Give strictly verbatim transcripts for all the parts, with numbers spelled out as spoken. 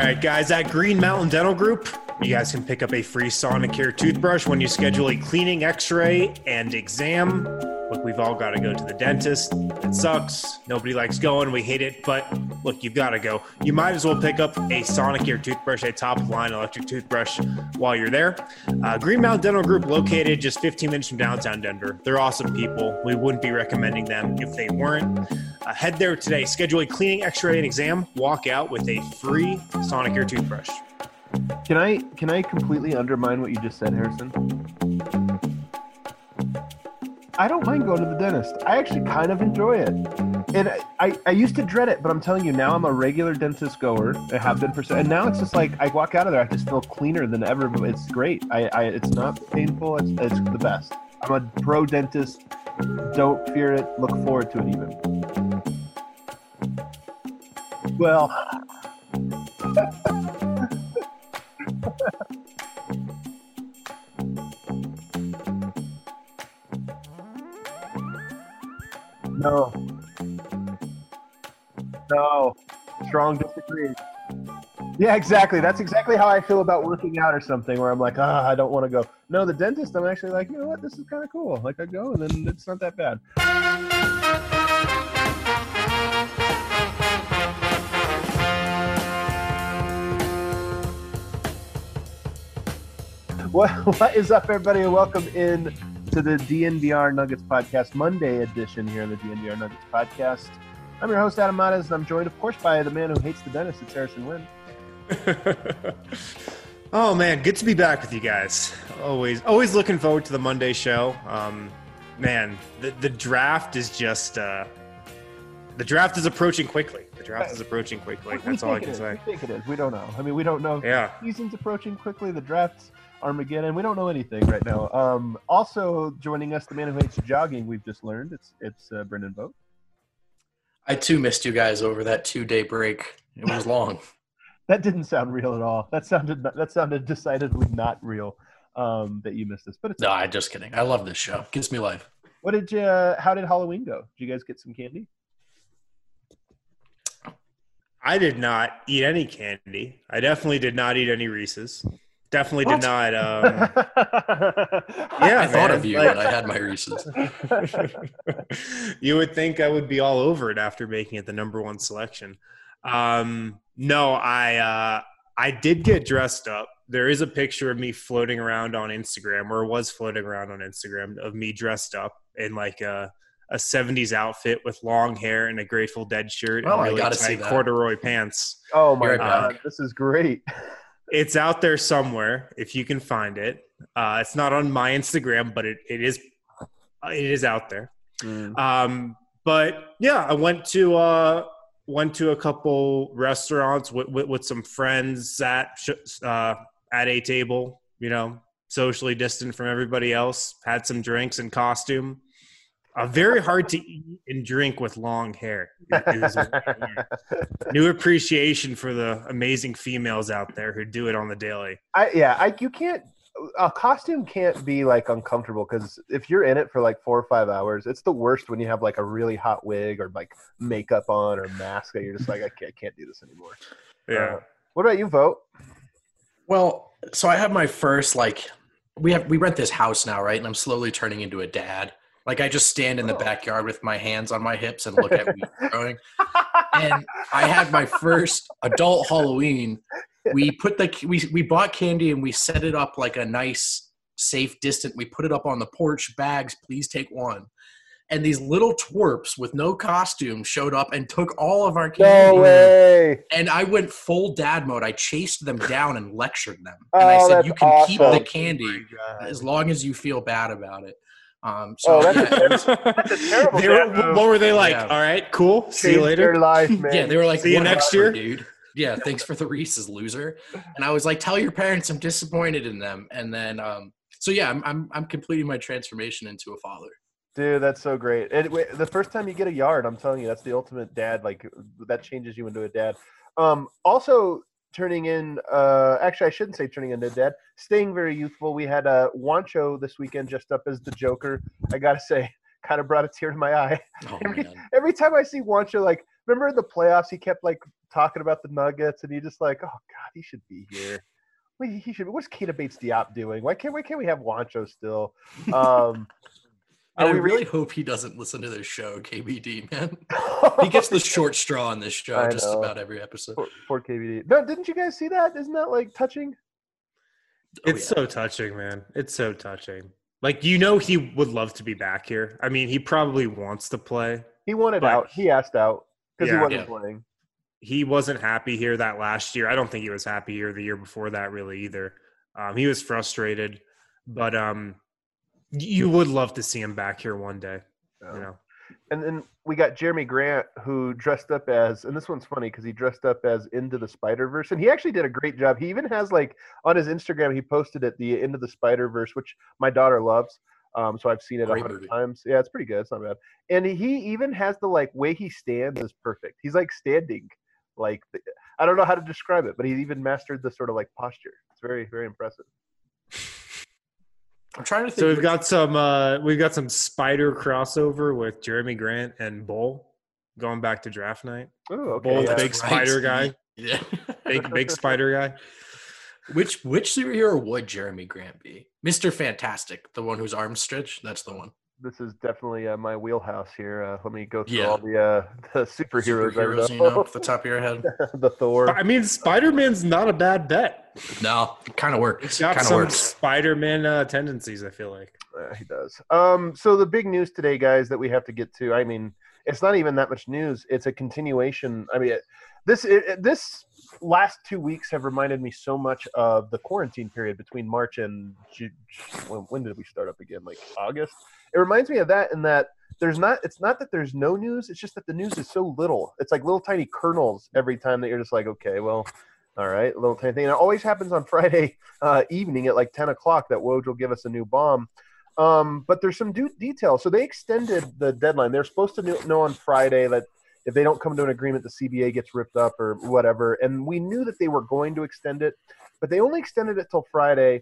right, guys, at Green Mountain Dental Group, you guys can pick up a free Sonicare toothbrush when you schedule a cleaning, x-ray, and exam. Look, we've all got to go to the dentist. It sucks. Nobody likes going. We hate it. But look, you've got to go. You might as well pick up a Sonicare toothbrush, a top-of-line electric toothbrush while you're there. Uh, Green Mountain Dental Group, located just fifteen minutes from downtown Denver. They're awesome people. We wouldn't be recommending them if they weren't. Uh, head there today. Schedule a cleaning, x-ray, and exam. Walk out with a free Sonicare toothbrush. Can I can I completely undermine what you just said, Harrison? I don't mind going to the dentist. I actually kind of enjoy it. And I, I used to dread it, but I'm telling you, now I'm a regular dentist goer. I have been for so, and now it's just like I walk out of there, I just feel cleaner than ever. It's great. I, I it's not painful. It's it's the best. I'm a pro dentist. Don't fear it. Look forward to it even. Well. No. No. Strong disagree. Yeah, exactly. That's exactly how I feel about working out or something, where I'm like, ah, I don't want to go. No, the dentist, I'm actually like, you know what, this is kind of cool. Like, I go, and then it's not that bad. What, what is up, everybody, and welcome in to the D N V R Nuggets Podcast, Monday edition here on the D N V R Nuggets Podcast. I'm your host, Adam Matas, and I'm joined, of course, by the man who hates the dentist. It's Harrison Wynn. Oh, man, good to be back with you guys. Always always looking forward to the Monday show. Um, man, the, the draft is just uh, – the draft is approaching quickly. The draft is approaching quickly. We, That's we all I can is. say. We think it is. We don't know. I mean, we don't know. Yeah. The season's approaching quickly. The draft's Armageddon. We don't know anything right now. Um, also joining us, the man who hates jogging, we've just learned. It's it's uh, Brendan Vogt. I, too, missed you guys over that two-day break. It was long. That didn't sound real at all. That sounded that sounded decidedly not real, um, that you missed this. But it's No, I'm just kidding. I love this show. It gives me life. What did you? Uh, how did Halloween go? Did you guys get some candy? I did not eat any candy. I definitely did not eat any Reese's. Definitely What? did not. Um, yeah, I thought man, of you like- when I had my Reese's. You would think I would be all over it after making it the number one selection. Um, no, I uh, I did get dressed up. There is a picture of me floating around on Instagram, or was floating around on Instagram, of me dressed up in like a, a seventies outfit with long hair and a Grateful Dead shirt Oh, and I really gotta see tight that. corduroy pants. Oh my You're god, back. this is great. It's out there somewhere if you can find it. Uh, it's not on my Instagram, but it, it is it is out there. Mm. Um, but yeah, I went to uh, went to a couple restaurants with, with, with some friends at uh, at a table. You know, socially distant from everybody else. Had some drinks and costume. Uh, very hard to eat and drink with long hair. It, it was a new appreciation for the amazing females out there who do it on the daily. I yeah, I you can't a costume can't be like uncomfortable, because if you're in it for like four or five hours, it's the worst when you have like a really hot wig or like makeup on or mask that you're just like I can't, I can't do this anymore. Yeah. Uh, what about you, Vote? Well, so I have my first, like, we have we rent this house now, right? And I'm slowly turning into a dad. Like, I just stand in the Oh. backyard with my hands on my hips and look at weeds growing. And I had my first adult Halloween. We put the we we bought candy and we set it up like a nice, safe, distant. We put it up on the porch. Bags, please take one. And these little twerps with no costume showed up and took all of our candy. No way! And I went full dad mode. I chased them down and lectured them. And Oh, I said, that's "You can keep the awesome. candy God. as long as you feel bad about it." Um, so Oh, that's yeah, it was- That's a terrible They were, dad move. what were they like? Yeah. All right, cool. See you Changed later. their life, man. yeah, they were like, See you next "Whatever, year?" dude." Yeah, thanks for the Reese's, loser. And I was like, "Tell your parents I'm disappointed in them." And then, um, so yeah, I'm I'm I'm completing my transformation into a father. Dude, that's so great. And wait, the first time you get a yard, I'm telling you, that's the ultimate dad. Like, that changes you into a dad. Um, also, turning in, uh, actually, I shouldn't say turning into a dad, staying very youthful. We had uh, Wancho this weekend just up as the Joker. I got to say, kind of brought a tear to my eye. Oh Every, man, every time I see Wancho, like, remember in the playoffs, he kept like talking about the Nuggets, and he just like, oh god, he should be here. Well, he should. What's Keita Bates-Diop doing? Why can't why can't we have Juancho still? Um, And I we really re- hope he doesn't listen to this show, K B D, man. He gets the short straw on this show I just know. about every episode. Poor, poor K B D. No, didn't you guys see that? Isn't that like touching? Oh, It's yeah. so touching, man. It's so touching. Like, you know, he would love to be back here. I mean, he probably wants to play. He wanted But- out. He asked out because Yeah. he wasn't Yeah. playing. He wasn't happy here that last year. I don't think he was happy here the year before that really either. Um, he was frustrated, but um, you would love to see him back here one day. Yeah. You know, And then we got Jeremy Grant, who dressed up as, and this one's funny because he dressed up as Into the Spider-Verse, and he actually did a great job. He even has like on his Instagram, he posted it, the Into the Spider-Verse, which my daughter loves. Um, so I've seen it a Great hundred movie. times. Yeah, it's pretty good. It's not bad. And he even has the like way he stands is perfect. He's like standing, like I don't know how to describe it, but he's even mastered the sort of like posture. It's very, very impressive. I'm trying to think. so we've which- got some uh, we've got some spider crossover with Jeremy Grant and Bull going back to draft night. Oh, okay. Bull, yeah. big spider guy, Yeah. big big spider guy. Which which superhero would Jeremy Grant be? Mister Fantastic, the one whose arms stretch. That's the one. This is definitely uh, my wheelhouse here. Uh, let me go through Yeah. all the uh, the superheroes. I Superheroes, you know. know, off the top of your head. The Thor. I mean, Spider-Man's not a bad bet. No, kind of works. He's got Kind of some works. Spider-Man uh, tendencies, I feel like. Uh, he does. Um, so the big news today, guys, that we have to get to. I mean, it's not even that much news. It's a continuation. I mean, it, this it, it- this last two weeks have reminded me so much of the quarantine period between March and Ju- when, when did we start up again? Like August. It reminds me of that in that there's not. It's not that there's no news. It's just that the news is so little. It's like little tiny kernels every time that you're just like, okay, well. All right, a little tiny thing. And it always happens on Friday uh, evening at like ten o'clock that Woj will give us a new bomb. Um, but there's some do- details. So they extended the deadline. They're supposed to kn- know on Friday that if they don't come to an agreement, the C B A gets ripped up or whatever. And we knew that they were going to extend it, but they only extended it till Friday.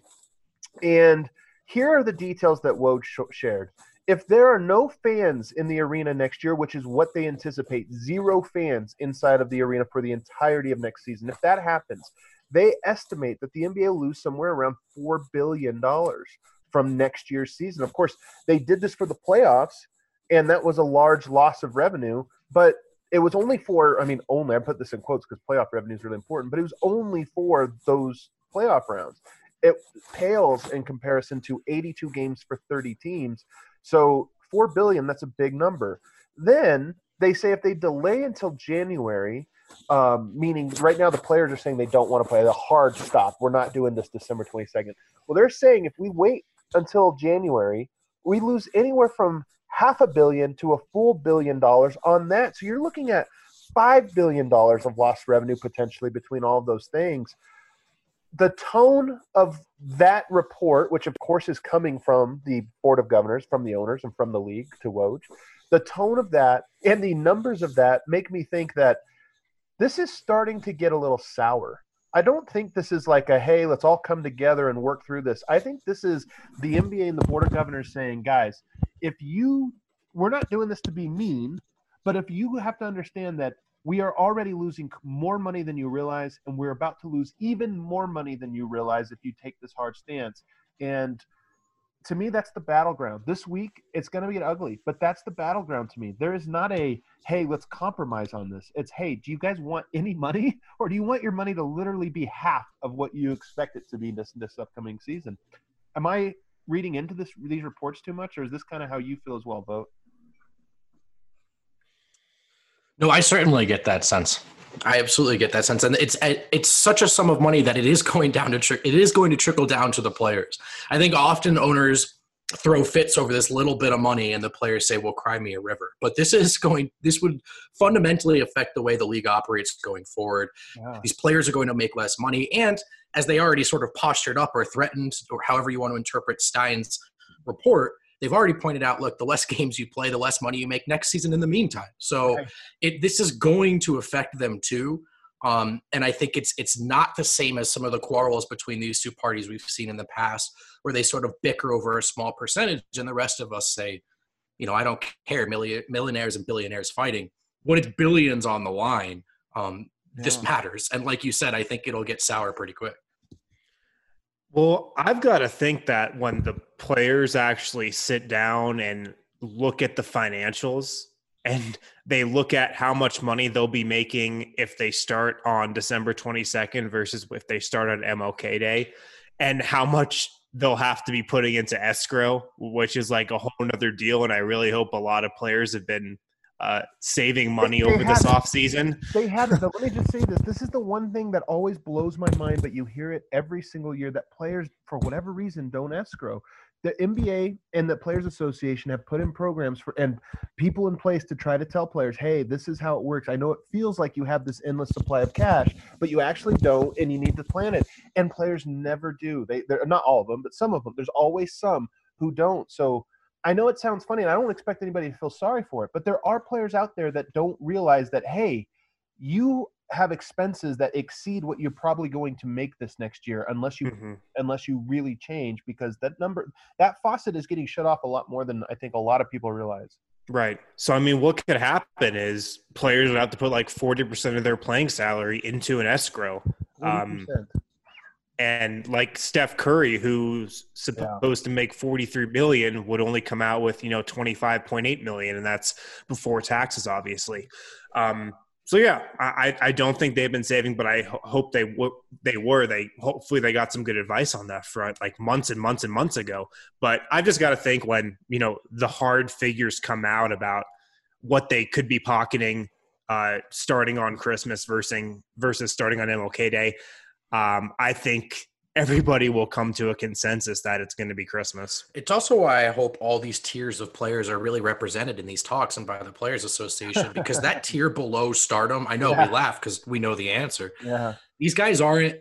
And here are the details that Woj sh- shared. If there are no fans in the arena next year, which is what they anticipate, zero fans inside of the arena for the entirety of next season, if that happens, they estimate that the N B A will lose somewhere around four billion dollars from next year's season. Of course, they did this for the playoffs, and that was a large loss of revenue, but it was only for, I mean, only, I put this in quotes because playoff revenue is really important, but it was only for those playoff rounds. It pales in comparison to eighty-two games for thirty teams. So four billion, that's a big number. Then they say if they delay until January, um, meaning right now the players are saying they don't want to play, the hard stop. We're not doing this December twenty-second. Well, they're saying if we wait until January, we lose anywhere from half a billion to a full billion dollars on that. So you're looking at five billion dollars of lost revenue potentially between all of those things. The tone of that report, which of course is coming from the Board of Governors, from the owners, and from the league to Woj, the tone of that and the numbers of that make me think that this is starting to get a little sour. I don't think this is like a, hey, let's all come together and work through this. I think this is the N B A and the Board of Governors saying, guys, if you, we're not doing this to be mean, but if you have to understand that we are already losing more money than you realize, and we're about to lose even more money than you realize if you take this hard stance. And to me, that's the battleground. This week, it's going to get ugly, but that's the battleground to me. There is not a, hey, let's compromise on this. It's, hey, do you guys want any money, or do you want your money to literally be half of what you expect it to be this, this upcoming season? Am I reading into this these reports too much, or is this kind of how you feel as well, Vogt? No, I certainly get that sense. I absolutely get that sense, and it's it's such a sum of money that it is going down to tri- it is going to trickle down to the players. I think often owners throw fits over this little bit of money, and the players say, "Well, cry me a river." But this is going. This would fundamentally affect the way the league operates going forward. Yeah. These players are going to make less money, and as they already sort of postured up or threatened, or however you want to interpret Stein's report, they've already pointed out, look, the less games you play, the less money you make next season in the meantime. So Right. it this is going to affect them too. Um, and I think it's it's not the same as some of the quarrels between these two parties we've seen in the past, where they sort of bicker over a small percentage and the rest of us say, you know, I don't care, million, millionaires and billionaires fighting. when it's billions on the line, um, Yeah. this matters. And like you said, I think it'll get sour pretty quick. Well, I've got to think that when the players actually sit down and look at the financials and they look at how much money they'll be making if they start on December twenty-second versus if they start on M L K Day, and how much they'll have to be putting into escrow, which is like a whole nother deal. And I really hope a lot of players have been uh, saving money They- they over this haven't. offseason. They haven't, but let me just say this. This is the one thing that always blows my mind, but you hear it every single year, that players, for whatever reason, don't escrow. The N B A and the Players Association have put in programs for and people in place to try to tell players, hey, this is how it works. I know it feels like you have this endless supply of cash, but you actually don't, and you need to plan it. And players never do. They, they're not all of them, but some of them. There's always some who don't. So I know it sounds funny, and I don't expect anybody to feel sorry for it, but there are players out there that don't realize that, hey, you have expenses that exceed what you're probably going to make this next year unless you Mhm. unless you really change, because that number that faucet is getting shut off a lot more than I think a lot of people realize. Right. So, I mean, what could happen is players would have to put like forty percent of their playing salary into an escrow. Um, forty percent. and like Steph Curry, who's supposed to make forty-three million, would only come out with, you know, twenty-five point eight million. And that's before taxes, obviously. Um, so yeah, I, I don't think they've been saving, but I ho- hope they w- they were. They hopefully they got some good advice on that front, like months and months and months ago. But I've just got to think when, you know, the hard figures come out about what they could be pocketing uh, starting on Christmas versus versus starting on M L K Day. Um, I think everybody will come to a consensus that it's going to be Christmas. It's also why I hope all these tiers of players are really represented in these talks and by the Players Association, because that tier below stardom, I know Yeah. we laugh because we know the answer. Yeah. These guys aren't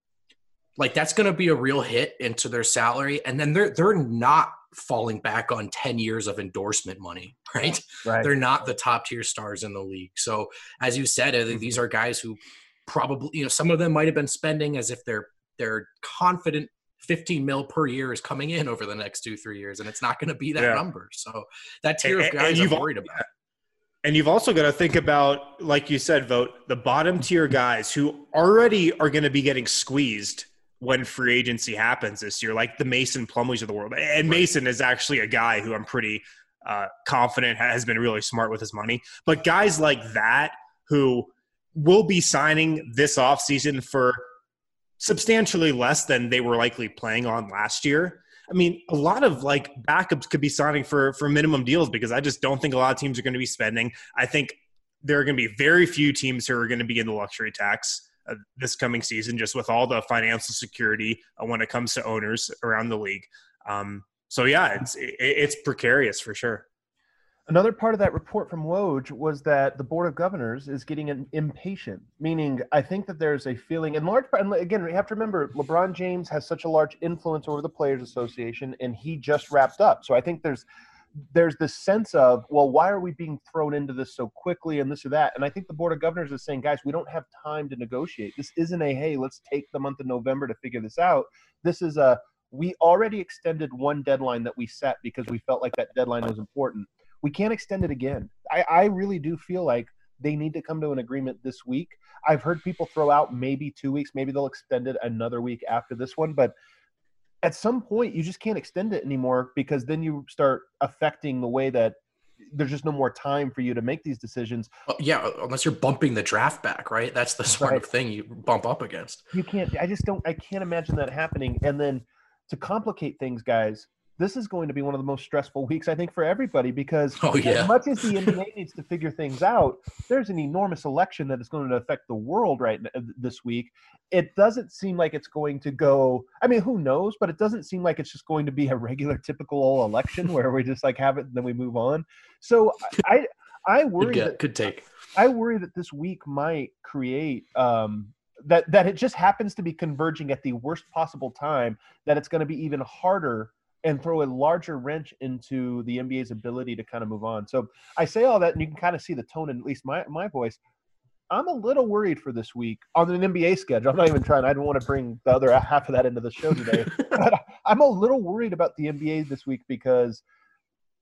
like, that's going to be a real hit into their salary. And then they're, they're not falling back on ten years of endorsement money, right? Right. They're not the top tier stars in the league. So as you said, I think these are guys who probably, you know, some of them might've been spending as if they're, they're confident fifteen mil per year is coming in over the next two, three years. And it's not going to be that Yeah. number. So that tier And- of and guys you've I'm al- worried about. And you've also got to think about, like you said, Vote, the bottom tier guys who already are going to be getting squeezed when free agency happens this year, like the Mason Plumleys of the world. And Mason is actually a guy who I'm pretty uh, confident has been really smart with his money. But guys like that who will be signing this offseason for substantially less than they were likely playing on last year. I mean, a lot of like backups could be signing for for minimum deals because I just don't think a lot of teams are going to be spending. I think there are going to be very few teams who are going to be in the luxury tax uh, this coming season, just with all the financial security uh, when it comes to owners around the league. Um, so yeah, it's it, it's precarious for sure. Another part of that report from Woj was that the Board of Governors is getting an impatient, meaning I think that there's a feeling, in large part, and again, we have to remember, LeBron James has such a large influence over the Players Association, and he just wrapped up. So I think there's there's this sense of, well, why are we being thrown into this so quickly and this or that? And I think the Board of Governors is saying, guys, we don't have time to negotiate. This isn't a, hey, let's take the month of November to figure this out. This is a, we already extended one deadline that we set because we felt like that deadline was important. We can't extend it again. I, I really do feel like they need to come to an agreement this week. I've heard people throw out maybe two weeks. Maybe they'll extend it another week after this one. But at some point, you just can't extend it anymore because then you start affecting the way that there's just no more time for you to make these decisions. Well, yeah, unless you're bumping the draft back, right? That's the sort Right. of thing you bump up against. You can't – I just don't – I can't imagine that happening. And then to complicate things, guys, this is going to be one of the most stressful weeks, I think, for everybody because Oh, yeah. as much as the N B A needs to figure things out, there's an enormous election that is going to affect the world right n- this week. It doesn't seem like it's going to go – I mean, who knows? But it doesn't seem like it's just going to be a regular, typical election where we just, like, have it and then we move on. So I I Could, worry get, that could take. I worry that this week might create um, that that it just happens to be converging at the worst possible time, that it's going to be even harder and throw a larger wrench into the N B A's ability to kind of move on. So I say all that, and you can kind of see the tone in at least my, my voice. I'm a little worried for this week on an N B A schedule. I'm not even trying. I don't want to bring the other half of that into the show today. But I'm a little worried about the N B A this week because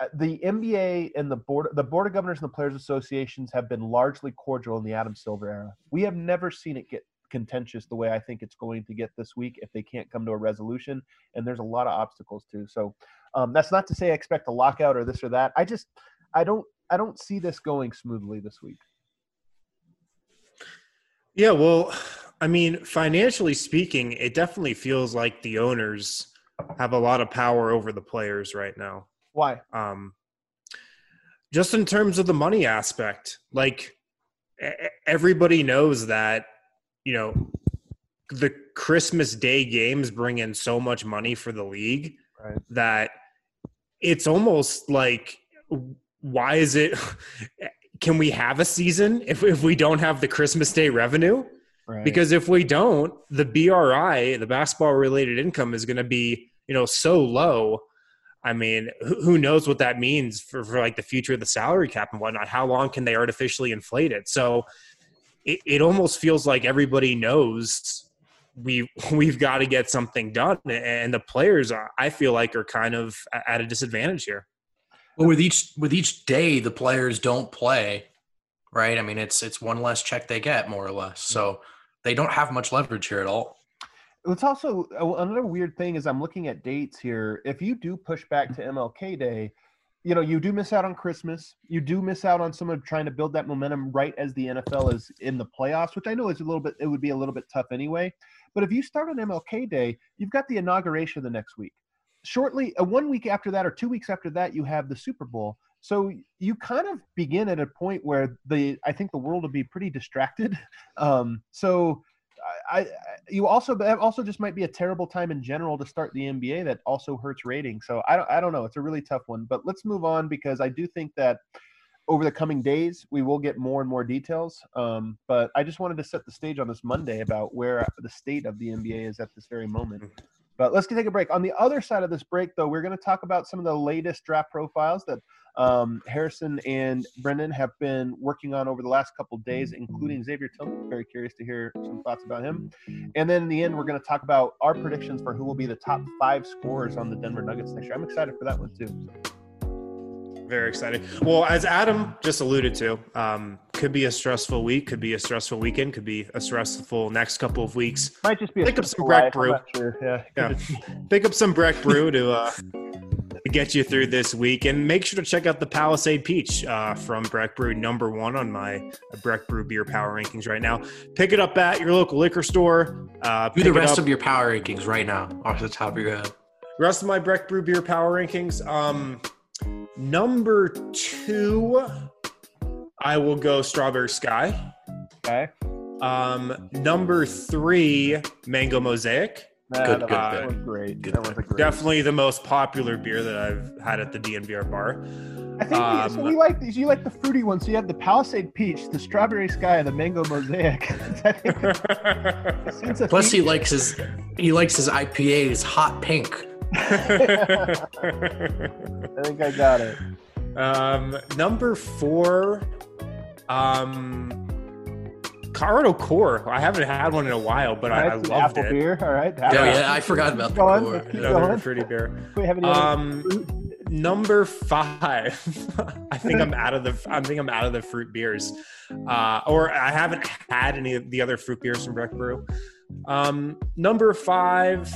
the N B A and the board, the board of governors and the players associations have been largely cordial in the Adam Silver era. We have never seen it get contentious the way I think it's going to get this week if they can't come to a resolution. And there's a lot of obstacles too. So um, that's not to say I expect a lockout or this or that. I just, I don't, I don't see this going smoothly this week. Yeah, well, I mean, financially speaking, it definitely feels like the owners have a lot of power over the players right now. Why? Um, just in terms of the money aspect, like everybody knows that, you know, the Christmas Day games bring in so much money for the league right. that it's almost like, why is it – can we have a season if, if we don't have the Christmas Day revenue? Right. Because if we don't, the B R I, the basketball-related income, is going to be, you know, so low. I mean, who, who knows what that means for, for like the future of the salary cap and whatnot? How long can they artificially inflate it? So it, it almost feels like everybody knows we we've got to get something done, and the players, I feel like, are kind of at a disadvantage here. Well, with each with each day the players don't play, right? I mean, it's it's one less check they get, more or less. So they don't have much leverage here at all. It's also another weird thing is I'm looking at dates here. If you do push back to M L K Day, you know, you do miss out on Christmas. You do miss out on someone trying to build that momentum right as the N F L is in the playoffs, which I know is a little bit, it would be a little bit tough anyway. But if you start on M L K Day, you've got the inauguration the next week. Shortly, uh, one week after that or two weeks after that, you have the Super Bowl. So you kind of begin at a point where the I think the world will be pretty distracted. Um, so I, I you also that also just might be a terrible time in general to start the N B A that also hurts ratings. So I don't I don't know. It's a really tough one. But let's move on because I do think that over the coming days we will get more and more details. Um, but I just wanted to set the stage on this Monday about where the state of the N B A is at this very moment. But let's take a break. On the other side of this break, though, we're going to talk about some of the latest draft profiles that um, Harrison and Brendan have been working on over the last couple of days, including Xavier Tillman. Very curious to hear some thoughts about him. And then in the end, we're going to talk about our predictions for who will be the top five scorers on the Denver Nuggets next year. I'm excited for that one, too. Very excited. Well, as Adam just alluded to, um, could be a stressful week, could be a stressful weekend, could be a stressful next couple of weeks. Might just be a pick up some life. Breck Brew. Sure. Yeah, yeah. Pick up some Breck Brew to uh, to get you through this week, and make sure to check out the Palisade Peach uh, from Breck Brew, number one on my Breck Brew beer power rankings right now. Pick it up at your local liquor store. Uh, Do the rest of your power rankings right now, off the top of your head. The rest of my Breck Brew beer power rankings. Um, number two, I will go Strawberry Sky. Okay. Um, number three, Mango Mosaic. Nah, good, that, good, was, good. that was great. Good that was a great. Definitely the most popular beer that I've had at the D N V R bar. I think um, we, so we like these. You like the fruity ones. So you have the Palisade Peach, the Strawberry Sky, and the Mango Mosaic. I think Plus, he likes his he likes his I P As hot pink. I think I got it. Um, number four, um, Colorado Core. I haven't had one in a while, but I, I loved apple it. Beer. All right. Oh yeah, I forgot about the Go core. on. Another fruity beer. We have any Um, fruit? number five. I think I'm out of the. I think I'm out of the fruit beers, uh, or I haven't had any of the other fruit beers from Breck Brew. Um, number five.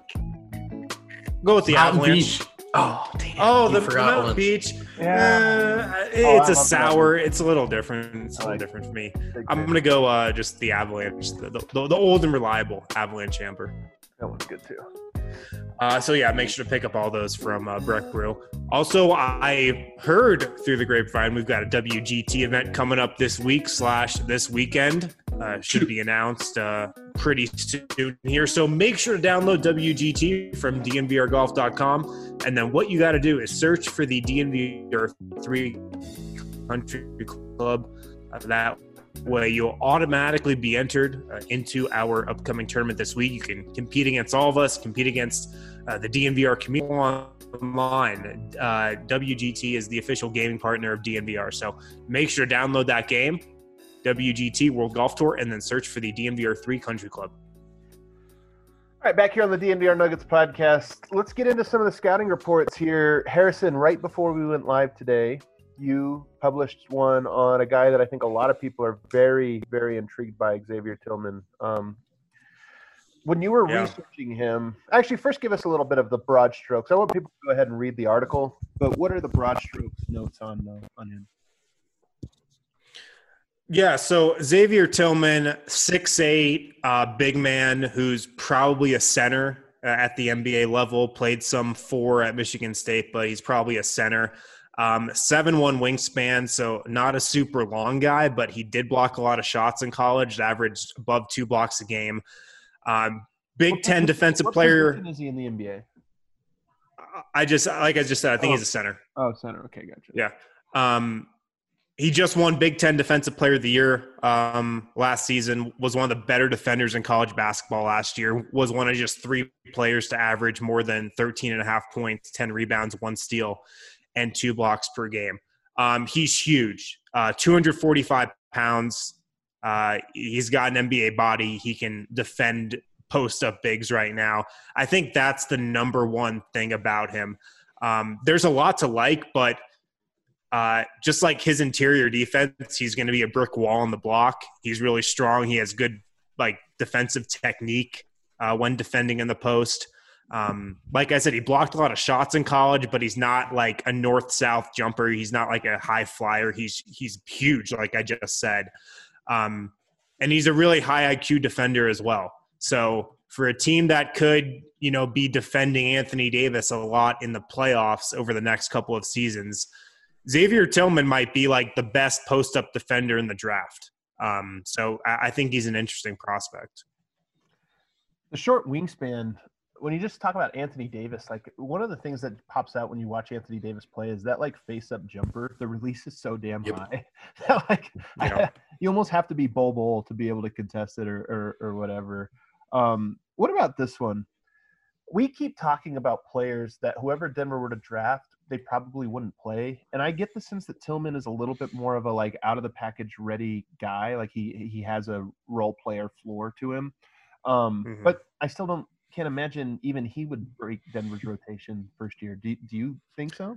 Go with the Mountain Avalanche. Beach. Oh, damn. Oh, You the forgot Mountain one. Beach. Yeah. Uh, Oh, it's I a love sour. It's a little different. It's a I little like different for me. Big I'm fan. gonna go uh, just the Avalanche, the, the, the old and reliable Avalanche Amber. That one's good too. Uh, so yeah, make sure to pick up all those from uh, Breck Brew. Also, I heard through the grapevine we've got a W G T event coming up this week slash this weekend. Uh, should be announced uh, pretty soon here. So make sure to download W G T from D N V R golf dot com, and then what you got to do is search for the D N V R three Country Club. Uh, that way you'll automatically be entered uh, into our upcoming tournament this week. You can compete against all of us, compete against uh, the D N V R community online. Uh, W G T is the official gaming partner of D N V R. So make sure to download that game, W G T World Golf Tour, and then search for the D N V R three Country Club. All right, back here on the D N V R Nuggets podcast, let's get into some of the scouting reports here. Harrison, right before we went live today, you published one on a guy that I think a lot of people are very, very intrigued by, Xavier Tillman. Um, when you were yeah. researching him, actually, first give us a little bit of the broad strokes. I want people to go ahead and read the article, but what are the broad strokes notes on uh, on him? Yeah, so Xavier Tillman, six eight, uh, big man who's probably a center at the N B A level, played some four at Michigan State, but he's probably a center. Um, seven one wingspan, so not a super long guy, but he did block a lot of shots in college, averaged above two blocks a game. Um, Big what, Ten what, defensive what player. What is he in the N B A? I just, like I just said, I think oh. he's a center. Oh, center. Okay, gotcha. Yeah. Um, he just won Big Ten Defensive Player of the Year um, last season, was one of the better defenders in college basketball last year, was one of just three players to average more than thirteen and a half points, ten rebounds, one steal, and two blocks per game. Um, he's huge, uh, two hundred forty-five pounds. Uh, he's got an N B A body. He can defend post-up bigs right now. I think that's the number one thing about him. Um, there's a lot to like, but uh, just like his interior defense, he's going to be a brick wall on the block. He's really strong. He has good like defensive technique uh, when defending in the post. Um, like I said, he blocked a lot of shots in college, but he's not like a north-south jumper. He's not like a high flyer. He's he's huge, like I just said. Um, and he's a really high I Q defender as well. So for a team that could, you know, be defending Anthony Davis a lot in the playoffs over the next couple of seasons, Xavier Tillman might be like the best post-up defender in the draft. Um, so I, I think he's an interesting prospect. The short wingspan, when you just talk about Anthony Davis, like one of the things that pops out when you watch Anthony Davis play is that like face-up jumper. The release is so damn yep. high that like yeah. I, you almost have to be Bol Bol to be able to contest it or or, or whatever. Um, what about this one? We keep talking about players that whoever Denver were to draft, they probably wouldn't play. And I get the sense that Tillman is a little bit more of a like out of the package ready guy. Like he he has a role player floor to him. Um, mm-hmm. But I still don't can't imagine even he would break Denver's rotation first year. Do do you think so?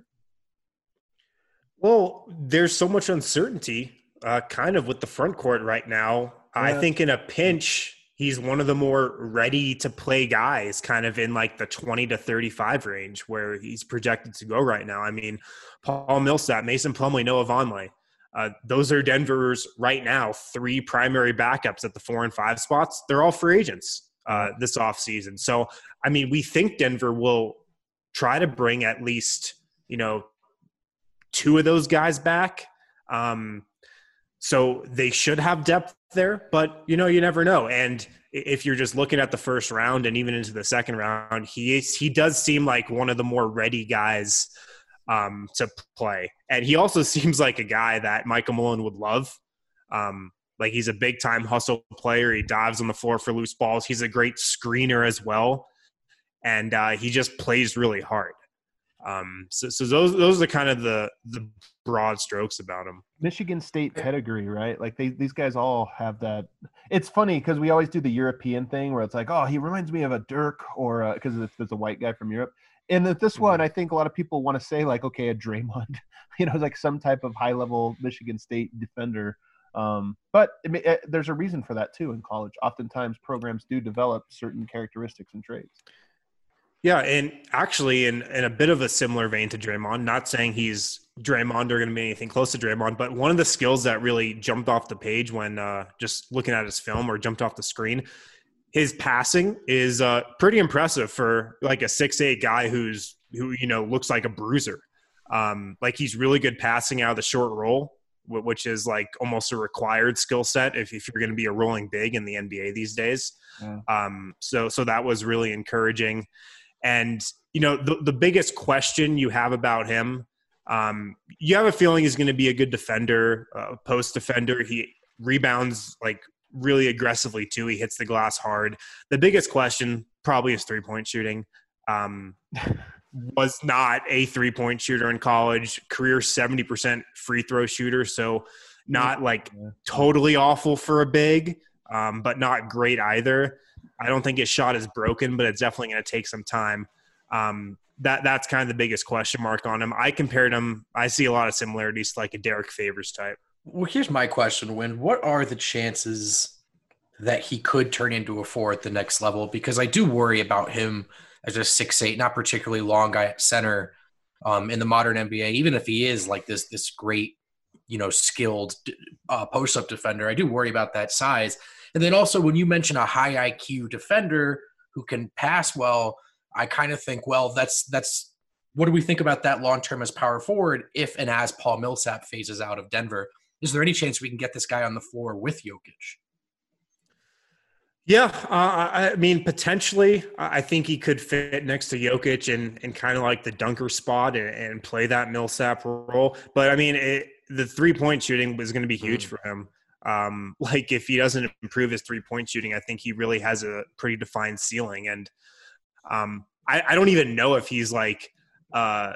Well, there's so much uncertainty uh, kind of with the front court right now. Yeah. I think in a pinch, he's one of the more ready to play guys kind of in like the twenty to thirty-five range where he's projected to go right now. I mean, Paul Millsap, Mason Plumlee, Noah Vonleh. Uh, those are Denver's right now three primary backups at the four and five spots. They're all free agents uh, this offseason. So, I mean, we think Denver will try to bring at least, you know, two of those guys back. Um, so they should have depth there, but, you know, you never know. And if you're just looking at the first round and even into the second round, he is, he does seem like one of the more ready guys um, to play. And he also seems like a guy that Michael Malone would love. Um, like he's a big time hustle player. He dives on the floor for loose balls. He's a great screener as well. And uh, he just plays really hard. Um, so, so those those are kind of the the broad strokes about him. Michigan State pedigree, right? Like they, these guys all have that. It's funny because we always do the European thing where it's like, oh, he reminds me of a Dirk or because if there's a white guy from Europe. And that this one, I think a lot of people want to say like, okay, a Draymond, you know, like some type of high level Michigan State defender. Um, but it, it, there's a reason for that too in college. Oftentimes programs do develop certain characteristics and traits. Yeah, and actually in, in a bit of a similar vein to Draymond, not saying he's Draymond or going to be anything close to Draymond, but one of the skills that really jumped off the page when uh, just looking at his film or jumped off the screen, his passing is uh, pretty impressive for like a six eight guy who's who you know looks like a bruiser. Um, like he's really good passing out of the short roll, which is like almost a required skill set if, if you're going to be a rolling big in the N B A these days. Yeah. Um, so so that was really encouraging. And, you know, the, the biggest question you have about him, um, you have a feeling he's going to be a good defender, uh, post defender. He rebounds like really aggressively too. He hits the glass hard. The biggest question probably is three-point shooting. Um, was not a three-point shooter in college, career seventy percent free throw shooter. So not like totally awful for a big, um, but not great either. I don't think his shot is broken, but it's definitely going to take some time. Um, that that's kind of the biggest question mark on him. I compared him. I see a lot of similarities to like a Derek Favors type. Well, here's my question, Win. What are the chances that he could turn into a four at the next level? Because I do worry about him as a six eight, not particularly long guy at center um, in the modern N B A. Even if he is like this this great, you know, skilled uh, post-up defender, I do worry about that size. And then also when you mention a high I Q defender who can pass well, I kind of think, well, that's that's what do we think about that long-term as power forward if and as Paul Millsap phases out of Denver? Is there any chance we can get this guy on the floor with Jokic? Yeah, uh, I mean, potentially. I think he could fit next to Jokic and, and kind of like the dunker spot and, and play that Millsap role. But, I mean, it, the three-point shooting was going to be huge mm. for him. Um, like, if he doesn't improve his three-point shooting, I think he really has a pretty defined ceiling. And um, I, I don't even know if he's, like uh,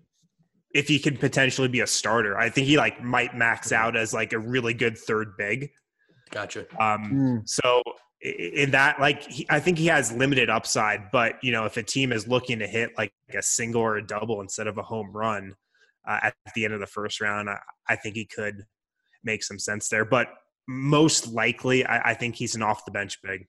– if he could potentially be a starter. I think he, like, might max out as, like, a really good third big. Gotcha. Um, mm. So – in that, like, he, I think he has limited upside, but, you know, if a team is looking to hit like a single or a double instead of a home run uh, at the end of the first round, I, I think he could make some sense there. But most likely, I, I think he's an off the bench big.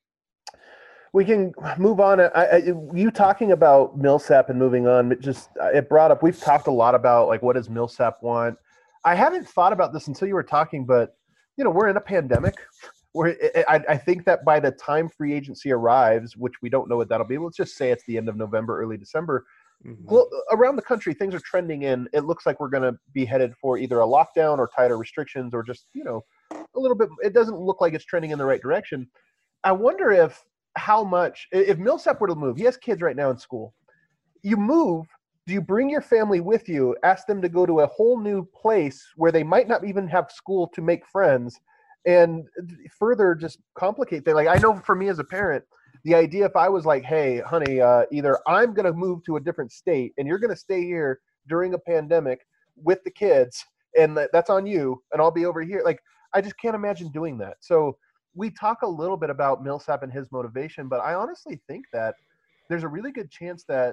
We can move on. I, I, you talking about Millsap and moving on, it just it brought up. We've talked a lot about like what does Millsap want. I haven't thought about this until you were talking, but you know, we're in a pandemic. Where I, I think that by the time free agency arrives, which we don't know what that'll be, let's just say it's the end of November, early December, mm-hmm. around the country, things are trending in. It looks like we're going to be headed for either a lockdown or tighter restrictions or just, you know, a little bit. It doesn't look like it's trending in the right direction. I wonder if how much, if Millsap were to move, he has kids right now in school. You move, do you bring your family with you, ask them to go to a whole new place where they might not even have school to make friends, and further just complicate things? Like, I know for me as a parent, the idea if I was like, hey, honey, uh, either I'm going to move to a different state and you're going to stay here during a pandemic with the kids, and that's on you, and I'll be over here. Like, I just can't imagine doing that. So we talk a little bit about Millsap and his motivation, but I honestly think that there's a really good chance that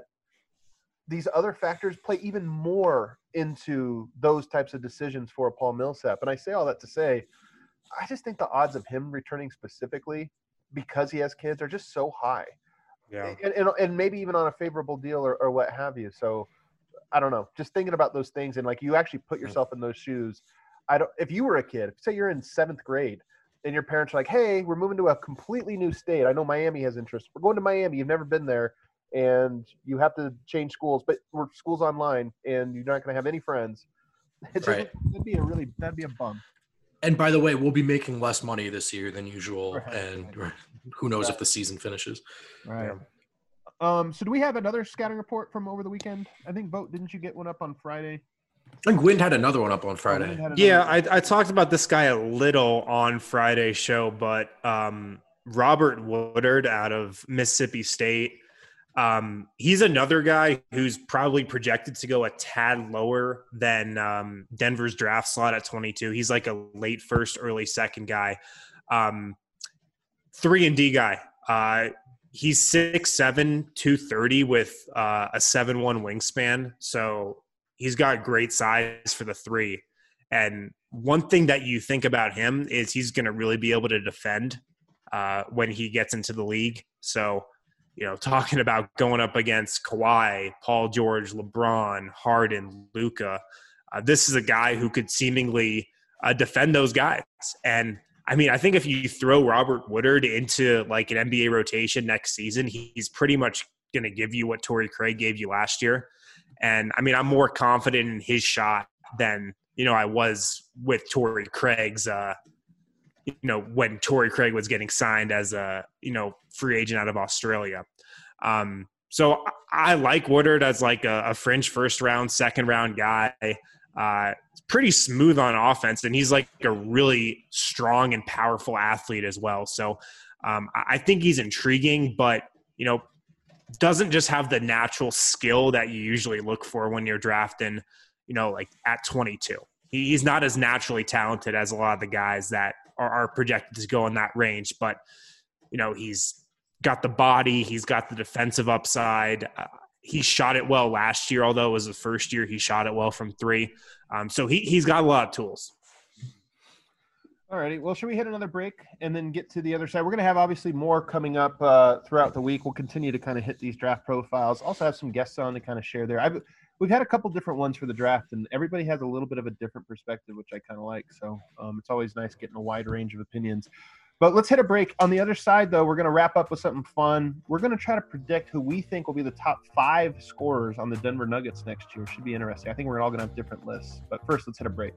these other factors play even more into those types of decisions for Paul Millsap. And I say all that to say, I just think the odds of him returning specifically because he has kids are just so high. Yeah. And, and, and maybe even on a favorable deal or, or what have you. So I don't know, just thinking about those things and like you actually put yourself in those shoes. I don't, if you were a kid, say you're in seventh grade and your parents are like, hey, we're moving to a completely new state. I know Miami has interest. We're going to Miami. You've never been there and you have to change schools, but we're school's online and you're not going to have any friends. It's right. Just, that'd be a really, that'd be a bum. And by the way, we'll be making less money this year than usual, right. and who knows right. if the season finishes. Right. Yeah. Um. So do we have another scouting report from over the weekend? I think, Vote, didn't you get one up on Friday? I think Wind had another one up on Friday. Oh, yeah, I, I talked about this guy a little on Friday's show, but um, Robert Woodard out of Mississippi State, Um, he's another guy who's probably projected to go a tad lower than um, Denver's draft slot at twenty-two. He's like a late first, early second guy. Um, three and D guy. Uh, he's six seven, two thirty with uh, a seven one wingspan. So he's got great size for the three. And one thing that you think about him is he's going to really be able to defend uh, when he gets into the league. So, you know, talking about going up against Kawhi, Paul George, LeBron, Harden, Luka, uh, this is a guy who could seemingly uh, defend those guys. And I mean, I think if you throw Robert Woodard into like an N B A rotation next season, he's pretty much going to give you what Torrey Craig gave you last year. And I mean, I'm more confident in his shot than, you know, I was with Torrey Craig's, uh, you know, when Torrey Craig was getting signed as a, you know, free agent out of Australia. Um, so I like Woodard as like a, a fringe first round, second round guy. Uh, pretty smooth on offense, and he's like a really strong and powerful athlete as well. So um, I think he's intriguing, but, you know, doesn't just have the natural skill that you usually look for when you're drafting, you know, like at twenty-two. He's not as naturally talented as a lot of the guys that are, are projected to go in that range, but, you know, he's got the body. He's got the defensive upside. Uh, he shot it well last year, although it was the first year he shot it well from three. Um, so he, he's got a lot of tools. All righty. Well, should we hit another break and then get to the other side? We're going to have obviously more coming up uh, throughout the week. We'll continue to kind of hit these draft profiles. Also have some guests on to kind of share there. I've, we've had a couple different ones for the draft, and everybody has a little bit of a different perspective, which I kind of like. So um, it's always nice getting a wide range of opinions. But let's hit a break. On the other side, though, we're going to wrap up with something fun. We're going to try to predict who we think will be the top five scorers on the Denver Nuggets next year. Should be interesting. I think we're all going to have different lists. But first, let's hit a break.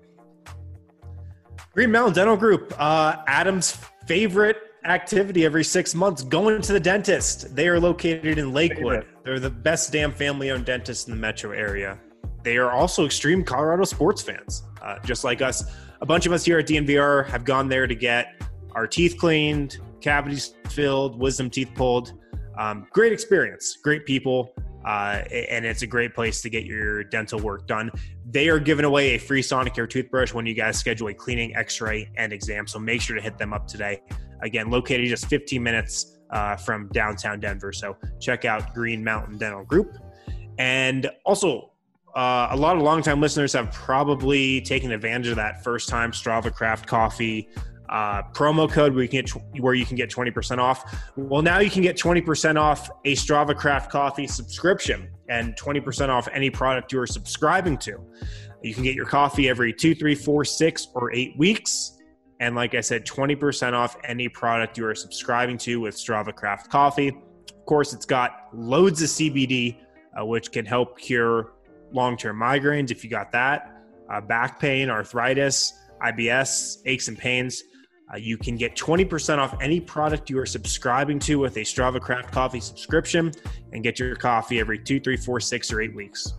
Green Mountain Dental Group, uh, Adam's favorite activity every six months, going to the dentist. They are located in Lakewood. They're the best damn family-owned dentist in the metro area. They are also extreme Colorado sports fans, uh, just like us. A bunch of us here at D N V R have gone there to get our teeth cleaned, cavities filled, wisdom teeth pulled. Um, great experience, great people. Uh, and it's a great place to get your dental work done. They are giving away a free Sonicare toothbrush when you guys schedule a cleaning, x-ray, and exam. So make sure to hit them up today. Again, located just fifteen minutes uh, from downtown Denver. So check out Green Mountain Dental Group. And also, uh, a lot of longtime listeners have probably taken advantage of that first-time Strava Craft Coffee Uh, promo code where you can get where you can get twenty percent off. Well, now you can get twenty percent off a Strava Craft Coffee subscription and twenty percent off any product you are subscribing to. You can get your coffee every two, three, four, six, or eight weeks. And like I said, twenty percent off any product you are subscribing to with Strava Craft Coffee. Of course, it's got loads of C B D, uh, which can help cure long-term migraines if you got that, uh, back pain, arthritis, I B S, aches and pains. Uh, you can get twenty percent off any product you are subscribing to with a Strava Craft Coffee subscription and get your coffee every two, three, four, six, or eight weeks.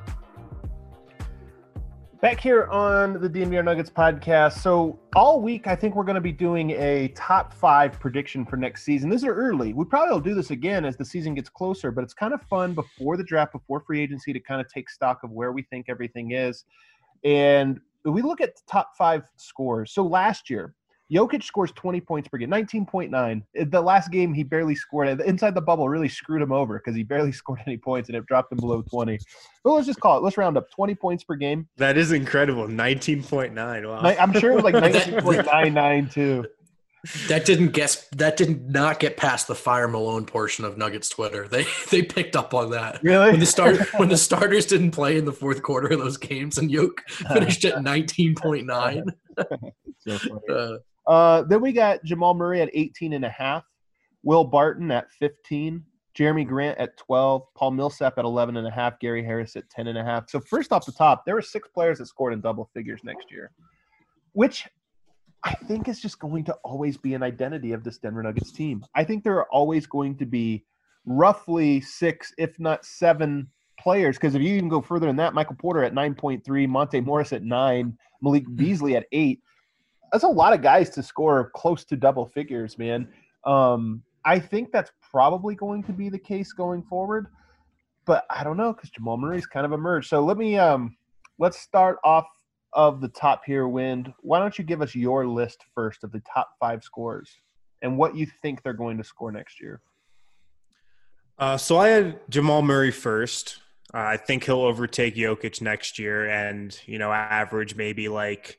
Back here on the D N V R Nuggets podcast. So all week, I think we're going to be doing a top five prediction for next season. These are early. We probably will do this again as the season gets closer, but it's kind of fun before the draft, before free agency, to kind of take stock of where we think everything is. And we look at the top five scores. So last year, Jokic scores twenty points per game, nineteen point nine. The last game, he barely scored. Inside the bubble really screwed him over because he barely scored any points, and it dropped him below twenty. But let's just call it. Let's round up. twenty points per game. That is incredible. nineteen point nine. Wow. I'm sure it was like nineteen point nine nine, too. That didn't guess. That did not get past the Fire Malone portion of Nuggets Twitter. They they picked up on that. Really? When the start when the starters didn't play in the fourth quarter of those games, and Yoke finished at nineteen point nine. So funny. Uh, uh, then we got Jamal Murray at eighteen and a half, Will Barton at fifteen, Jeremy Grant at twelve, Paul Millsap at eleven and a half, Gary Harris at ten and a half. So first off the top, there were six players that scored in double figures next year, which I think is just going to always be an identity of this Denver Nuggets team. I think there are always going to be roughly six, if not seven players, because if you even go further than that, Michael Porter at nine point three, Monte Morris at nine, Malik Beasley at eight. That's a lot of guys to score close to double figures, man. Um, I think that's probably going to be the case going forward, but I don't know because Jamal Murray's kind of emerged. So let me um, let's start off of the top here, Wind. Why don't you give us your list first of the top five scorers and what you think they're going to score next year? Uh, so I had Jamal Murray first. Uh, I think he'll overtake Jokic next year and, you know, average maybe like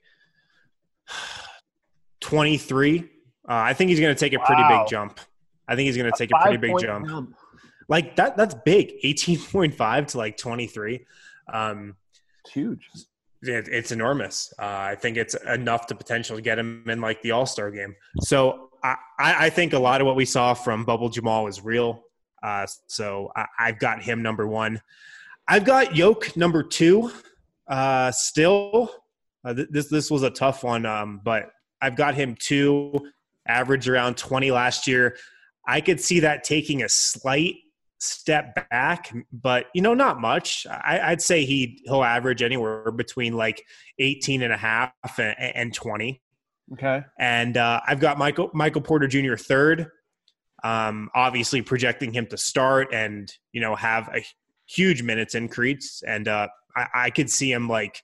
twenty-three. Uh, I think he's going to take a pretty Wow. big jump. I think he's going to A take a pretty big five-point jump. jump. Like that, that's big. eighteen point five to like twenty-three. Um, It's huge. it, it's enormous. Uh, I think it's enough to potentially get him in like the All-Star game. So I, I I think a lot of what we saw from Bubble Jamal is real. Uh, so I, I've got him number one. I've got Yoke number two. Uh, still, uh, th- this this was a tough one, um, but I've got him two. Average around twenty last year. I could see that taking a slight step back, but you know, not much. I, I'd say he he'll average anywhere between like eighteen and a half and, and twenty. Okay. And uh, I've got Michael Michael Porter Junior third. Um, obviously projecting him to start and, you know, have a huge minutes increase. And uh, I, I could see him like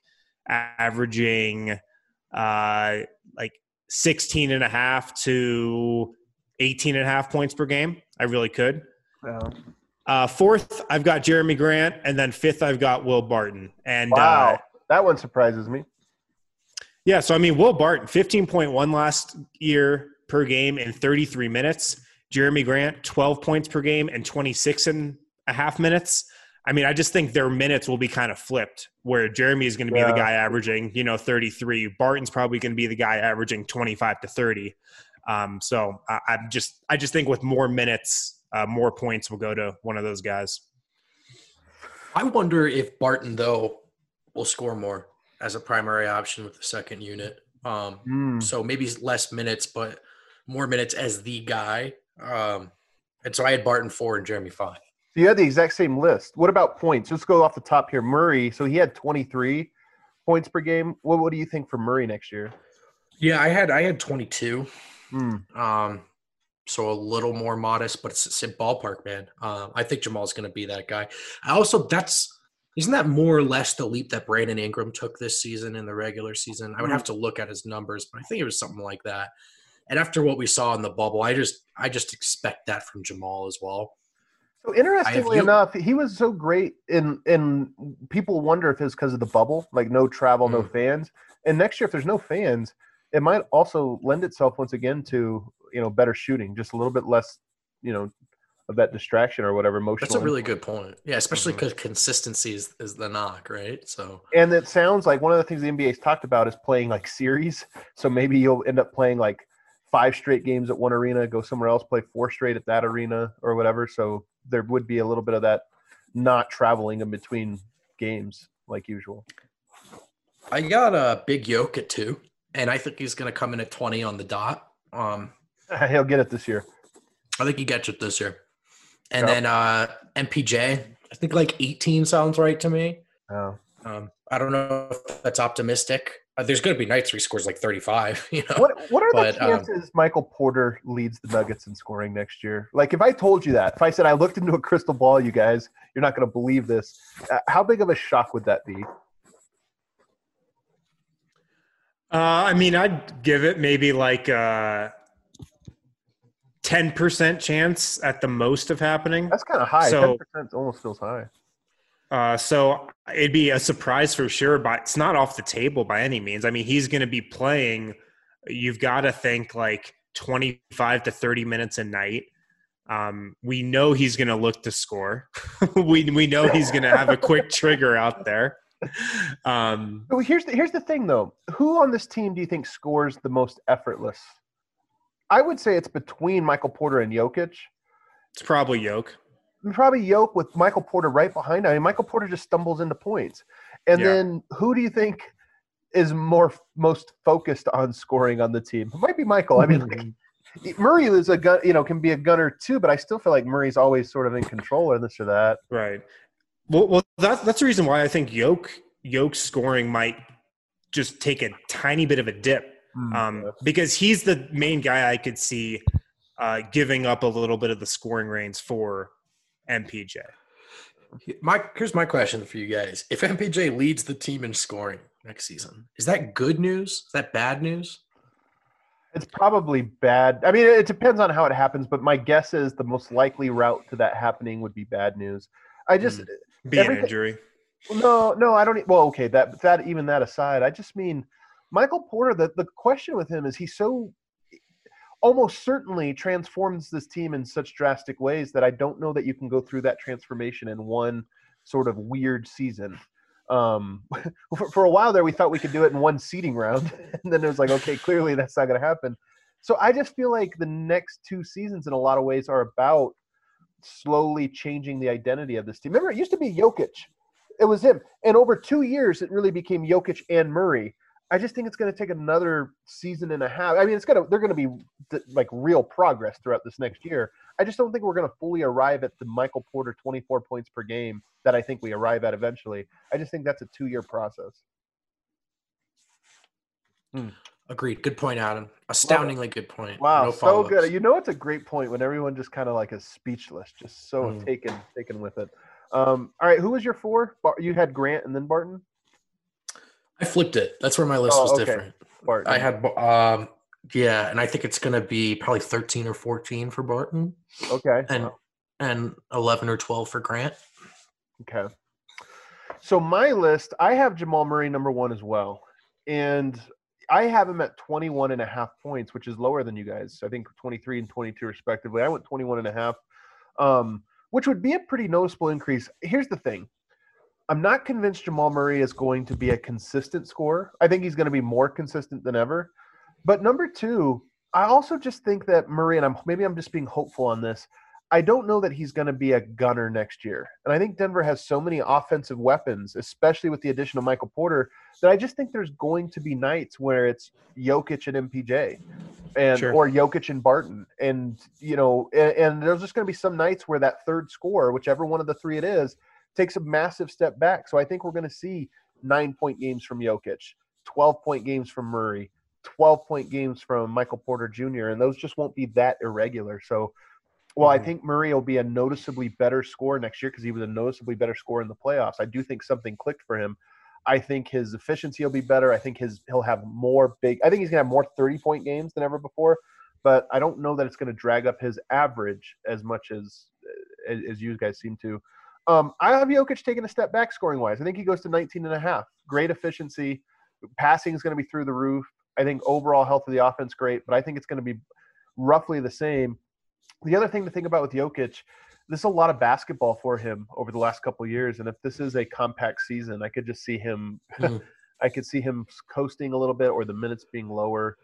averaging uh, like sixteen and a half to eighteen and a half points per game. I really could. Yeah. Uh, fourth, I've got Jeremy Grant, and then fifth, I've got Will Barton. And wow, uh, that one surprises me. Yeah, so I mean, Will Barton, fifteen point one last year per game in thirty-three minutes. Jeremy Grant, twelve points per game and twenty-six and a half minutes. I mean, I just think their minutes will be kind of flipped, where Jeremy is going to be yeah. the guy averaging, you know, thirty-three. Barton's probably going to be the guy averaging twenty-five to thirty. Um, so I, I'm just, I just think with more minutes, uh, more points will go to one of those guys. I wonder if Barton, though, will score more as a primary option with the second unit. Um, mm. So maybe less minutes, but more minutes as the guy. Um, and so I had Barton four and Jeremy five. So you had the exact same list. What about points? Let's go off the top here. Murray, so he had twenty-three points per game. What, what do you think for Murray next year? Yeah, I had I had twenty-two. Mm. Um, so a little more modest, but it's, it's a ballpark, man. Um, I think Jamal's going to be that guy. I also, that's isn't that more or less the leap that Brandon Ingram took this season in the regular season? I would have to look at his numbers, but I think it was something like that. And after what we saw in the bubble, I just I just expect that from Jamal as well. So interestingly you, enough, he was so great in in people wonder if it's because of the bubble, like no travel, mm. no fans. And next year, if there's no fans, it might also lend itself once again to, you know, better shooting, just a little bit less, you know, of that distraction or whatever emotional. That's a really good point. Yeah, especially because mm-hmm. consistency is, is the knock, right? So, and it sounds like one of the things the N B A's talked about is playing like series. So maybe you'll end up playing like five straight games at one arena, go somewhere else, play four straight at that arena or whatever. So there would be a little bit of that not traveling in between games like usual. I got a big yoke at two, and I think he's going to come in at twenty on the dot. Um, He'll get it this year. I think he gets it this year. And yep. then uh, M P J, I think like eighteen sounds right to me. Oh. Um, I don't know if that's optimistic. Uh, there's going to be nights where he scores like thirty-five. You know, what what are but, the chances um, Michael Porter leads the Nuggets in scoring next year? Like, if I told you that, if I said I looked into a crystal ball, you guys, you're not going to believe this. Uh, how big of a shock would that be? Uh, I mean, I'd give it maybe like a ten percent chance at the most of happening. That's kind of high. So, ten percent almost feels high. Uh, so it'd be a surprise for sure, but it's not off the table by any means. I mean, he's going to be playing. You've got to think like twenty-five to thirty minutes a night. Um, we know he's going to look to score. we we know he's going to have a quick trigger out there. Um, so here's the, here's the thing, though. Who on this team do you think scores the most effortless? I would say it's between Michael Porter and Jokic. It's probably Jokic. Probably Yoke with Michael Porter right behind him. I mean, Michael Porter just stumbles into points. And yeah. then who do you think is more most focused on scoring on the team? It might be Michael. I mean, like, Murray is a gun, you know, can be a gunner too, but I still feel like Murray's always sort of in control or this or that. Right. Well, well, that's that's the reason why I think Yoke Yoke's scoring might just take a tiny bit of a dip, mm, um, yeah. because he's the main guy I could see uh, giving up a little bit of the scoring reins for M P J. My here's my question for you guys: if M P J leads the team in scoring next season, is that good news? Is that bad news? It's probably bad. I mean, it depends on how it happens, but my guess is the most likely route to that happening would be bad news. I just mm, be an injury. No, no, I don't. Well, okay, that that even that aside, I just mean Michael Porter. The the question with him is he's so almost certainly transforms this team in such drastic ways that I don't know that you can go through that transformation in one sort of weird season. Um, for, for a while there, we thought we could do it in one seeding round, and then it was like, okay, clearly that's not going to happen. So I just feel like the next two seasons, in a lot of ways, are about slowly changing the identity of this team. Remember, it used to be Jokic. It was him. And over two years, it really became Jokic and Murray. I just think it's going to take another season and a half. I mean, it's going to, they're going to be like real progress throughout this next year. I just don't think we're going to fully arrive at the Michael Porter twenty-four points per game that I think we arrive at eventually. I just think that's a two-year process. Hmm. Agreed. Good point, Adam. Astoundingly good point. Wow, no so good. You know, it's a great point when everyone just kind of like is speechless, just so mm. taken taken with it. Um, all right, who was your four? You had Grant and then Barton? I flipped it. That's where my list oh, was okay. different. Barton. I had um, Yeah, and I think it's going to be probably thirteen or fourteen for Barton, Okay. and Wow. and eleven or twelve for Grant. Okay. So my list, I have Jamal Murray number one as well. And I have him at twenty-one and a half points, which is lower than you guys. I think twenty-three and twenty-two respectively. I went twenty-one and a half, um, which would be a pretty noticeable increase. Here's the thing. I'm not convinced Jamal Murray is going to be a consistent scorer. I think he's going to be more consistent than ever. But number two, I also just think that Murray, and I'm maybe I'm just being hopeful on this, I don't know that he's going to be a gunner next year. And I think Denver has so many offensive weapons, especially with the addition of Michael Porter, that I just think there's going to be nights where it's Jokic and M P J and Sure. or Jokic and Barton. And, you know, and, and there's just going to be some nights where that third scorer, whichever one of the three it is, takes a massive step back. So I think we're going to see nine-point games from Jokic, twelve-point games from Murray, twelve-point games from Michael Porter Junior, and those just won't be that irregular. So, well, I think Murray will be a noticeably better scorer next year because he was a noticeably better scorer in the playoffs. I do think something clicked for him. I think his efficiency will be better. I think his he'll have more big – I think he's going to have more thirty-point games than ever before, but I don't know that it's going to drag up his average as much as as, as you guys seem to. Um, I have Jokic taking a step back scoring-wise. I think he goes to nineteen and a half. Great efficiency. Passing is going to be through the roof. I think overall health of the offense great, but I think it's going to be roughly the same. The other thing to think about with Jokic, this is a lot of basketball for him over the last couple of years, and if this is a compact season, I could just see him mm. I could see him coasting a little bit or the minutes being lower.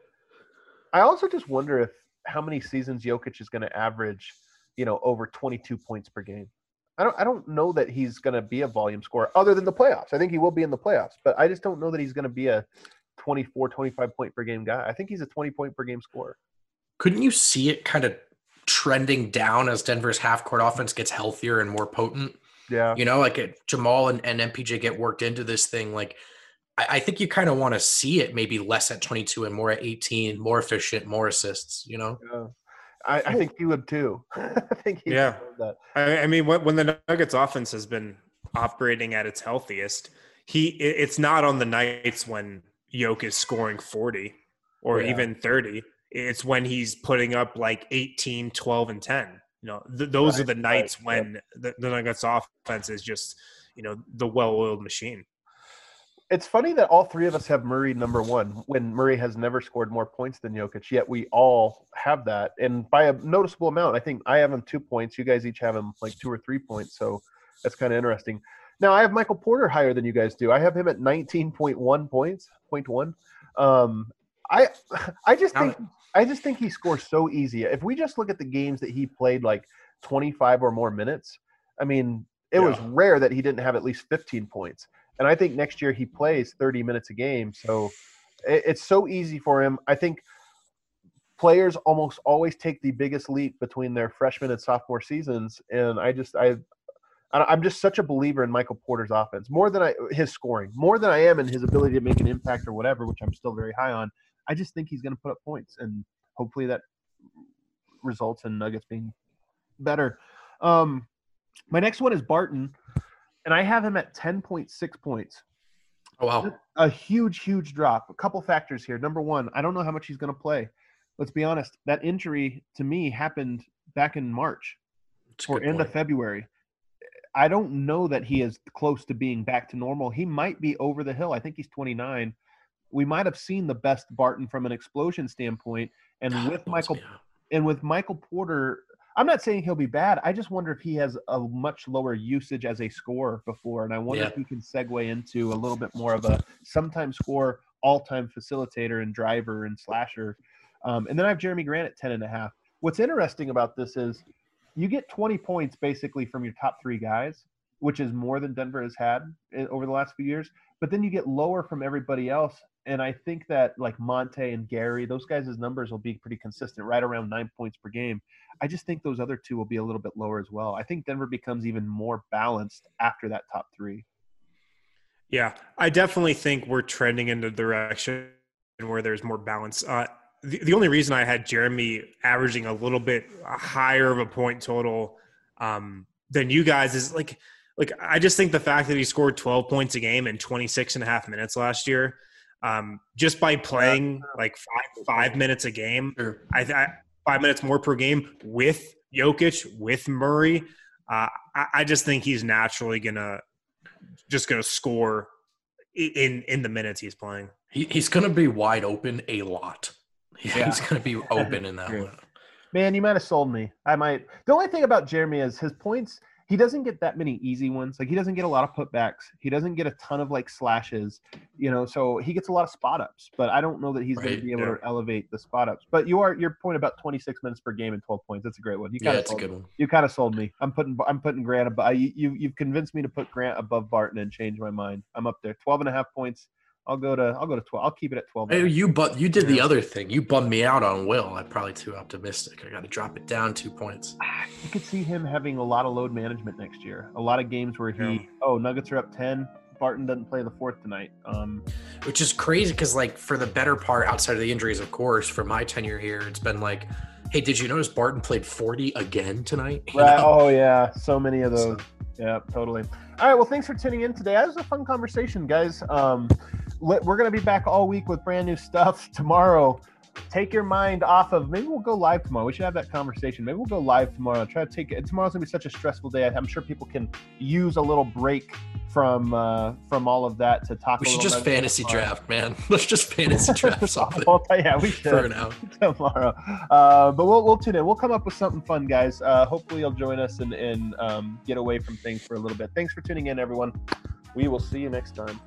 I also just wonder if how many seasons Jokic is going to average, you know, over twenty-two points per game. I don't I don't know that he's going to be a volume scorer other than the playoffs. I think he will be in the playoffs, but I just don't know that he's going to be a twenty-four, twenty-five point per game guy. I think he's a twenty point per game scorer. Couldn't you see it kind of trending down as Denver's half-court offense gets healthier and more potent? Yeah. You know, like it, Jamal and, and M P J get worked into this thing. Like, I, I think you kind of want to see it maybe less at twenty-two and more at eighteen, more efficient, more assists, you know? Yeah. I, I think he would too. I think he yeah. would that. I, I mean, when, when the Nuggets offense has been operating at its healthiest, he it, it's not on the nights when Jokic is scoring forty or yeah. even thirty. It's when he's putting up like eighteen, twelve, and ten. You know, th- those right, are the nights right, when yeah. the, the Nuggets offense is just, you know, the well-oiled machine. It's funny that all three of us have Murray number one when Murray has never scored more points than Jokic, yet we all have that. And by a noticeable amount, I think I have him two points. You guys each have him like two or three points. So that's kind of interesting. Now, I have Michael Porter higher than you guys do. I have him at nineteen point one points, point one. Um, I I just think I just think he scores so easy. If we just look at the games that he played like twenty-five or more minutes, I mean, it yeah. was rare that he didn't have at least fifteen points. And I think next year he plays thirty minutes a game. So it, it's so easy for him. I think players almost always take the biggest leap between their freshman and sophomore seasons. And I just I I'm just such a believer in Michael Porter's offense, more than I his scoring, more than I am in his ability to make an impact or whatever, which I'm still very high on. I just think he's going to put up points, and hopefully that results in Nuggets being better. Um, my next one is Barton, and I have him at ten point six points. Oh, wow. A huge, huge drop. A couple factors here. Number one, I don't know how much he's going to play. Let's be honest. That injury, to me, happened back in March or end of February. I don't know that he is close to being back to normal. He might be over the hill. I think he's twenty-nine. We might have seen the best Barton from an explosion standpoint. And God, with Michael and with Michael Porter, I'm not saying he'll be bad. I just wonder if he has a much lower usage as a scorer before. And I wonder yeah. if he can segue into a little bit more of a sometime scorer, all-time facilitator and driver and slasher. Um, and then I have Jeremy Grant at ten and a half. What's interesting about this is you get twenty points basically from your top three guys, which is more than Denver has had over the last few years. But then you get lower from everybody else. And I think that like Monte and Gary, those guys' numbers will be pretty consistent, right around nine points per game. I just think those other two will be a little bit lower as well. I think Denver becomes even more balanced after that top three. Yeah, I definitely think we're trending in the direction where there's more balance. Uh, the, the only reason I had Jeremy averaging a little bit higher of a point total um, than you guys is like, like I just think the fact that he scored twelve points a game in twenty-six and a half minutes last year, Um, just by playing like five five minutes a game, Sure. I, I five minutes more per game with Jokic, with Murray, uh, I, I just think he's naturally gonna just gonna score in in the minutes he's playing. He, he's going to be wide open a lot. Yeah. He's going to be open in that True. one. Man, you might have sold me. I might. The only thing about Jeremy is his points. He doesn't get that many easy ones. Like he doesn't get a lot of putbacks. He doesn't get a ton of like slashes. You know, so he gets a lot of spot ups. But I don't know that he's going Right, to be able yeah. to elevate the spot ups. But you are your point about twenty-six minutes per game and twelve points. That's a great one. You Yeah, kinda it's a sold good me. one. You kind of sold me. I'm putting I'm putting Grant above. You you you've convinced me to put Grant above Barton and change my mind. I'm up there. twelve and a half points. I'll go to I'll go to twelve. I'll keep it at twelve. Hey, you but you did the Yeah. other thing. You bummed me out on Will. I'm probably too optimistic. I got to drop it down two points. You could see him having a lot of load management next year. A lot of games where he, Yeah. oh, Nuggets are up ten. Barton doesn't play the fourth tonight. Um, Which is crazy because, like, for the better part, outside of the injuries, of course, for my tenure here, it's been like, hey, did you notice Barton played forty again tonight? You right. know? Oh yeah, so many of those. Yeah, totally. All right. Well, thanks for tuning in today. That was a fun conversation, guys. Um, let, we're gonna be back all week with brand new stuff tomorrow. Take your mind off of. Maybe we'll go live tomorrow. We should have that conversation. Maybe we'll go live tomorrow. Try to take it. Tomorrow's gonna be such a stressful day. I'm sure people can use a little break from uh, from all of that to talk. We a should little just bit fantasy tomorrow. draft, man. Let's just fantasy draft something Well, yeah, we should. for now. Tomorrow. Uh, but we'll we'll tune in. We'll come up with something fun, guys. Uh, hopefully you'll join us and, and um, get away from things for a little bit. Thanks for tuning in, everyone. We will see you next time.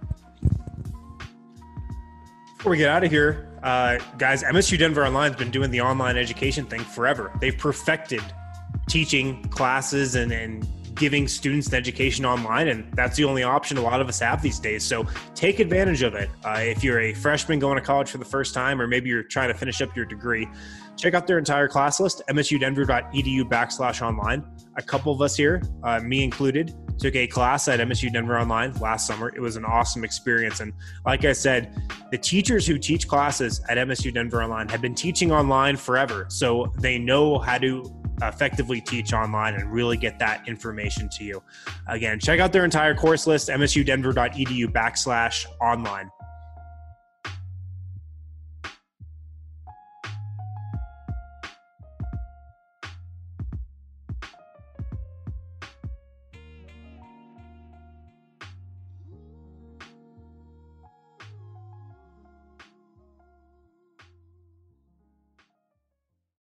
Before we get out of here, uh, guys, M S U Denver Online has been doing the online education thing forever. They've perfected teaching classes and, and giving students an education online, and that's the only option a lot of us have these days. So take advantage of it. Uh, if you're a freshman going to college for the first time, or maybe you're trying to finish up your degree, check out their entire class list, msudenver.edu backslash online. A couple of us here, uh, me included, took a class at M S U Denver Online last summer. It was an awesome experience. And like I said, the teachers who teach classes at M S U Denver Online have been teaching online forever. So they know how to effectively teach online and really get that information to you. Again, check out their entire course list, msudenver.edu backslash online.